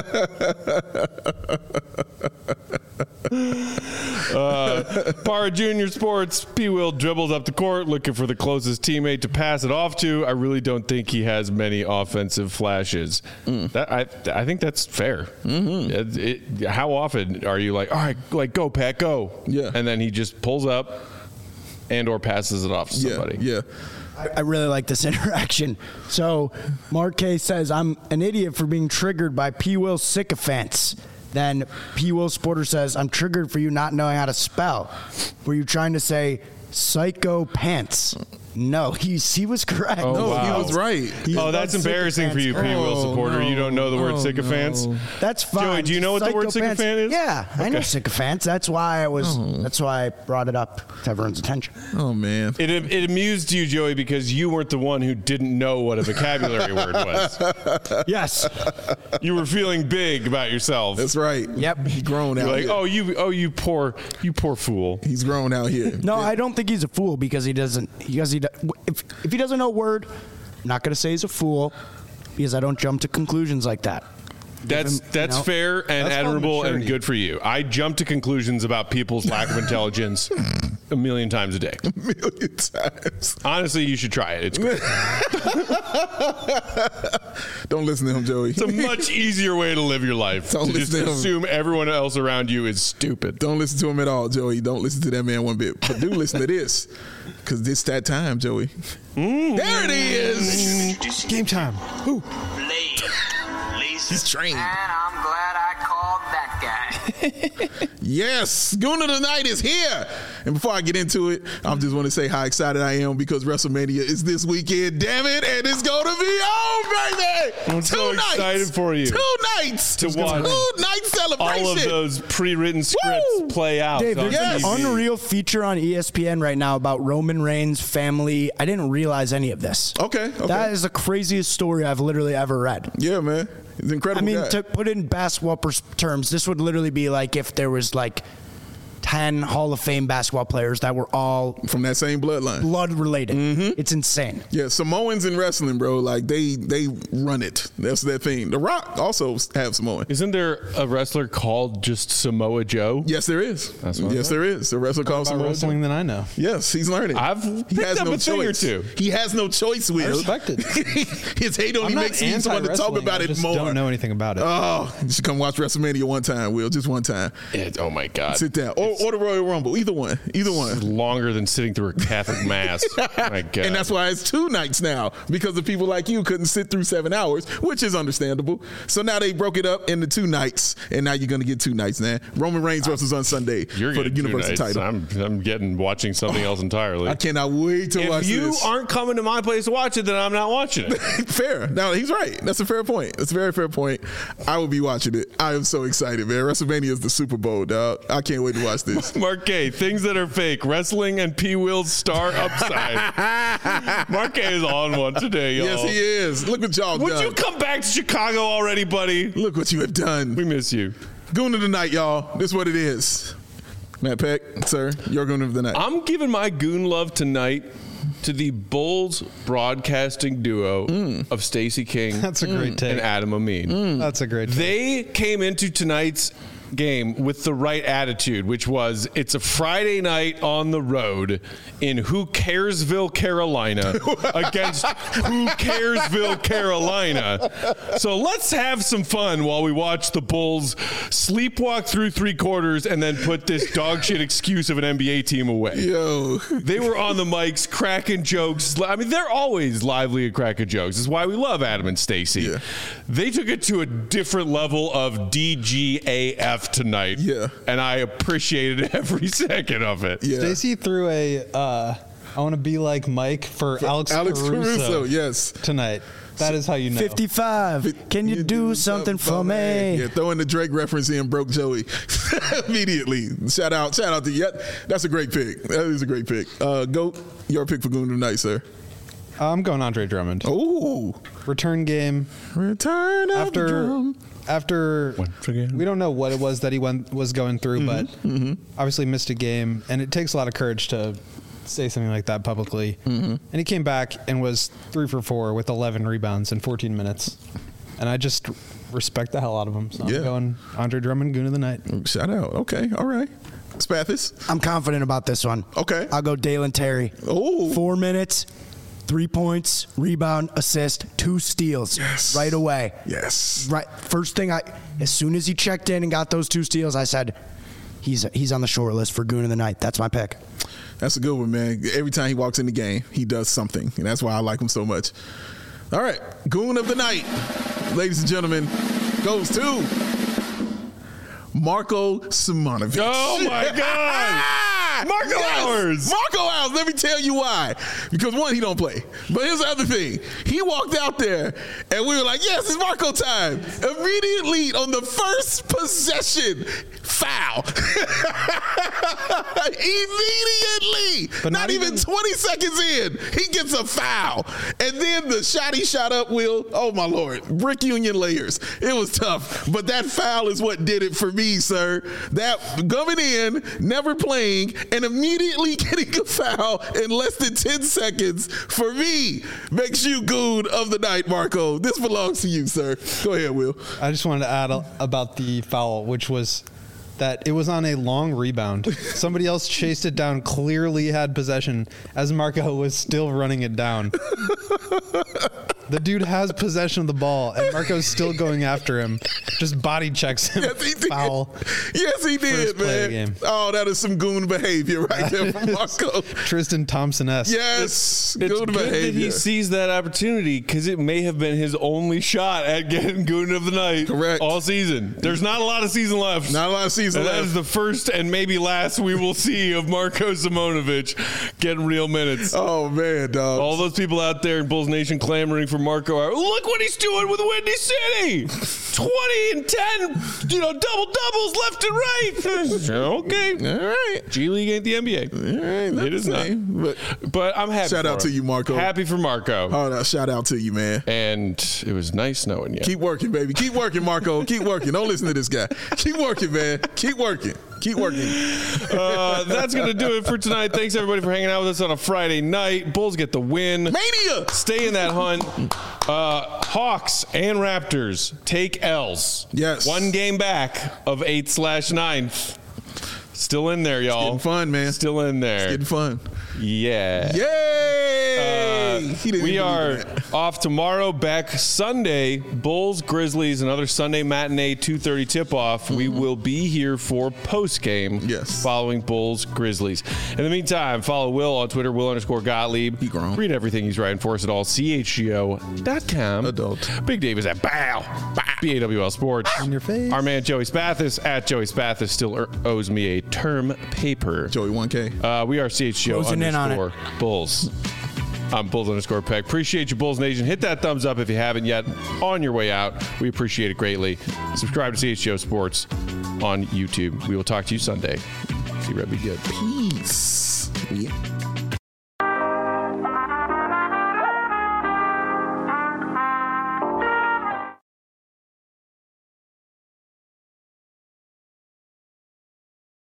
uh, Parra Junior Sports, P. Will dribbles up the court looking for the closest teammate to pass it off to. I really don't think he has many offensive flashes. Mm. That I I think that's fair. Mm-hmm. It, it, how often are you like, all right, like go Pat, go? Yeah. And then he just pulls up and or passes it off to somebody. Yeah, yeah. I really like this interaction. So, Mark K says, I'm an idiot for being triggered by P. Will sycophants. Then P. Will Sporter says, I'm triggered for you not knowing how to spell. Were you trying to say psycho pants? No, he, he was correct. Oh, No, wow. he was right. He Oh, spelled that's embarrassing for you, P. sycophants Will Oh, supporter. no, you don't know the word no, sycophants? no. That's fine. Joey, do you know what the word Psychophants- sycophant is? Yeah, I know Okay. sycophants. That's why I was. That's why I brought it up to everyone's attention. Oh, man. It, it amused you, Joey, because you weren't the one who didn't know what a vocabulary word was. Yes. You were feeling big about yourself. That's right. Yep. He's grown out You're like, here. oh, you, oh, you poor, you poor fool. He's grown out here. No, I don't think he's a fool because he doesn't. Because he, do- if if he doesn't know a word, I'm not going to say he's a fool because I don't jump to conclusions like that. That's him, you that's know. fair and That's called admirable and maturity. good for you. I jump to conclusions about people's lack of intelligence a million times a day. A million times. Honestly, you should try it. It's great. Don't listen to him, Joey. It's a much easier way to live your life. Don't to just listen to him. assume everyone else around you is stupid. Don't listen to him at all, Joey. Don't listen to that man one bit. But do listen to this, because it's that time, Joey. There it is. Introducing Game time. Blade. Laser. He's trained. And I'm glad I called that guy. Yes, Gooner of the Night is here. And before I get into it, I just want to say how excited I am because WrestleMania is this weekend, damn it, and it's going to be on, baby. I'm so excited for you. Two nights. To watch Two night celebration. All of those pre-written scripts Woo! play out. Dave, on there's Yes. an T V. unreal feature on E S P N right now about Roman Reigns' family. I didn't realize any of this. Okay, okay. That is the craziest story I've literally ever read. Yeah, man. He's an I incredible mean, guy. to put it in basketball pers- terms, this would literally be like if there was like ten Hall of Fame basketball players that were all From that same bloodline. blood related. Mm-hmm. It's insane. Yeah, Samoans in wrestling, bro. Like they they run it. That's their thing. The Rock also have Samoan. Isn't there a wrestler called just Samoa Joe? Yes, there is. That's what I yes, there is. A wrestler called About Samoa wrestling than I know. Yes, he's learning. I've he picked has up no a thing or choice. two. He has no choice, Will. I respect it. His hate only I'm not makes you want to talk anti-wrestling, about I it just more. don't know anything about it. Oh, you should come watch WrestleMania one time, Will. Just one time. It- oh my God! Sit down. Oh, or the Royal Rumble. Either one. Either one. Longer than sitting through a Catholic mass. My God. And that's why it's two nights now, because of people like you couldn't sit through seven hours, which is understandable. So now they broke it up into two nights, and now you're going to get two nights, man. Roman Reigns versus on Sunday You're for the getting two Universal nights. title. I'm, I'm getting watching something else entirely. I cannot wait to watch If you this. aren't coming to my place to watch it, then I'm not watching it. Fair. Now, he's right. That's a fair point. That's a very fair point. I will be watching it. I am so excited, man. WrestleMania is the Super Bowl, dog. I can't wait to watch this. Mark K, things that are fake. Wrestling and P. Will's star upside. Mark K is on one today, y'all. Yes, he is. Look what y'all Would done. you come back to Chicago already, buddy? Look what you have done. We miss you. Goon of the night, y'all. This is what it is. Matt Peck, sir, your goon of the night. I'm giving my goon love tonight to the Bulls broadcasting duo Mm. of Stacey King That's a great take. and Adam Amin. That's a great take. They came into tonight's game with the right attitude, which was it's a Friday night on the road in Who Caresville, Carolina against Who Caresville, Carolina. So let's have some fun while we watch the Bulls sleepwalk through three quarters and then put this dog shit excuse of an N B A team away. Yo. They were on the mics cracking jokes. I mean, they're always lively and cracking jokes. That's why we love Adam and Stacey. Yeah. They took it to a different level of D G A F tonight. Yeah. And I appreciated every second of it. Yeah. Stacey threw a uh, I want to be like Mike for, Alex, Alex Caruso, Caruso, yes. tonight. That is how you know. fifty-five. Can you, do something for me? Yeah, throwing the Drake reference in broke Joey immediately. Shout out, shout out to you. That's a great pick. That is a great pick. Uh, Goat, your pick for Goon tonight, sir. I'm going Andre Drummond. Oh, Return game. return of the After drum. after Once again. we don't know what it was that he went was going through, but Mm-hmm. obviously missed a game, and it takes a lot of courage to say something like that publicly. Mm-hmm. And he came back and was three for four with eleven rebounds in fourteen minutes, and I just respect the hell out of him. So Yeah. I'm going Andre Drummond, Goon of the night. Shout out. Okay, all right. Spathis. I'm confident about this one. Okay. I'll go Dalen Terry. Oh. Four minutes, three points, rebound, assist, two steals. Yes. Right away. Yes. Right. First thing I, as soon as he checked in and got those two steals, I said, he's he's on the short list for Goon of the night. That's my pick. That's a good one, man. Every time he walks in the game, he does something, and that's why I like him so much. All right, Goon of the night, ladies and gentlemen, goes to Marko Simonovic. Oh, my God. Marco Hours. Marco Hours. Let me tell you why. Because one, he don't play. But here's the other thing. He walked out there, and we were like, yes, it's Marco time. Immediately on the first possession, foul. Immediately. But not, not even, even- twenty seconds in, he gets a foul. And then the shot he shot up, Will, oh my Lord, brick union layers. It was tough. But that foul is what did it for me, sir. That coming in, never playing, and immediately getting a foul in less than ten seconds, for me, makes you Goon of the night, Marco. This belongs to you, sir. Go ahead, Will. I just wanted to add a, about the foul, which was that it was on a long rebound. Somebody else chased it down, clearly had possession, as Marco was still running it down. The dude has possession of the ball, and Marco's still going after him. Just body checks him. Yes, he did. Foul. Yes, he did, First play of man. the game. Oh, that is some Goon behavior right there from Marco. Tristan Thompson-esque. Yes, It's Goon good that behavior. he seized that opportunity because it may have been his only shot at getting Goon of the night Correct. all season. There's not a lot of season left. Not a lot of season And that left. is the first and maybe last we will see of Marko Simonovic getting real minutes. Oh man, dog. All those people out there in Bulls Nation clamoring for Marco. Look what he's doing with Windy City. twenty and ten, you know, double doubles left and right. Okay. All right. G League ain't the N B A. All right, not It is the not. same, But But I'm happy. Shout for out to him. you, Marco. Happy for Marco. oh, no, shout out to you, man. And it was nice knowing you. Keep working, baby. Keep working, Marco. Keep working. Don't listen to this guy. Keep working, man. Keep working. Keep working. Uh, that's going to do it for tonight. Thanks, everybody, for hanging out with us on a Friday night. Bulls get the win. Mania. Stay in that hunt. Uh, Hawks and Raptors take L's. Yes. One game back of eighth slash ninth. Still in there, y'all. Getting fun, man. Still in there. Getting fun. Yeah. Yay! Uh, He didn't we even are believe that. off tomorrow, back Sunday. Bulls, Grizzlies, another Sunday matinee two thirty tip-off. Mm-hmm. We will be here for post-game Yes. following Bulls, Grizzlies. In the meantime, follow Will on Twitter, Will underscore Gottlieb. He grown. Read everything he's writing for us at all, C H G O dot com. Adult. Big Dave is at Bow, B A W L Sports. In your face. Our man Joey Spathis at Joey Spathis still er- owes me a term paper. Joey one K. Uh, we are C H G O Closing in on it. underscore Bulls. I'm Bulls underscore Peck. Appreciate you, Bulls Nation. Hit that thumbs up if you haven't yet. On your way out, we appreciate it greatly. Subscribe to C H G O Sports on YouTube. We will talk to you Sunday. See Red be good. Peace. Yeah.